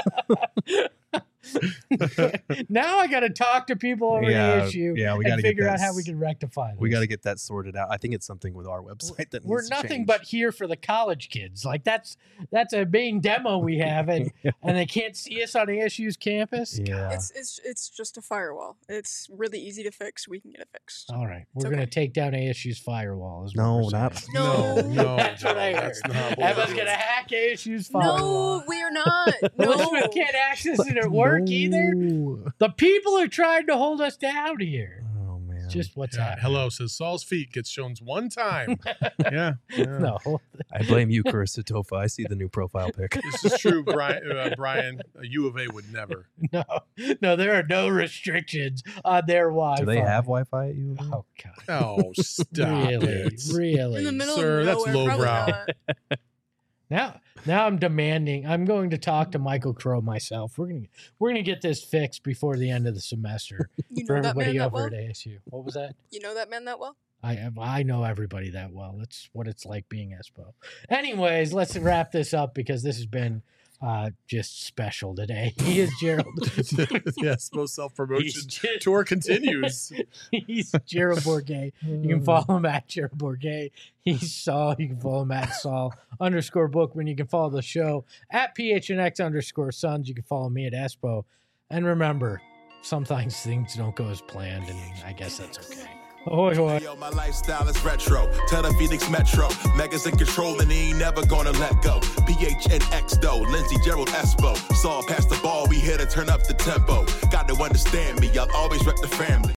Now I got to talk to people over Yeah, at A S U yeah, we and gotta get figure out that how we s- can rectify this. We got to get that sorted out. I think it's something with our website that We're needs to nothing change. but here for the college kids. Like that's that's a main demo we have, and and they can't see us on A S U's campus. yeah. It's it's it's just a firewall. It's really easy to fix. We can get it fixed. All right, we're It's gonna okay. take down A S U's firewall. Is what No, we're not- saying. No. no, no. That's what I heard. That's not what Emma's we're gonna doing. hack A S U's firewall. No, we are not. No. Elizabeth can't access it at work either. No. The people are trying to hold us down here. Oh man. It's just what's Yeah, happening. hello says Saul's feet gets shown one time. yeah, yeah. No. I blame you, Carissa Tofa. I see the new profile pic. This is true, Brian. Uh, Brian, a U of A would never. No. No, there are no restrictions on their Wi-Fi. Do they have Wi-Fi at you? Oh God. Oh, stop Really? it. Really? In the middle Sir, of that's nowhere, probably lowbrow. not. Now, now I'm demanding. I'm going to talk to Michael Crow myself. We're gonna we're gonna get this fixed before the end of the semester You for know that everybody man that over well? at A S U. What was that? You know that man that well? I I know everybody that well. That's what it's like being Espo. Anyways, let's wrap this up because this has been uh, just special today. He is Gerald. yes, most self promotion He's, Ger- tour continues. he's Gerald Bourget. You can follow him at Gerald Bourget. He's Saul. You can follow him at Saul underscore Bookman. You can follow the show at P H N X underscore Sons. You can follow me at Espo. And remember, sometimes things don't go as planned, and I guess that's okay. Ahoy, hoy. Yo, my lifestyle is retro. Tell the Phoenix Metro. Megas in control and he ain't never gonna let go. P H N X though, Lindsey Gerald Espo. Saw past the ball, we here to turn up the tempo. Got to understand me, I'll always rep the family.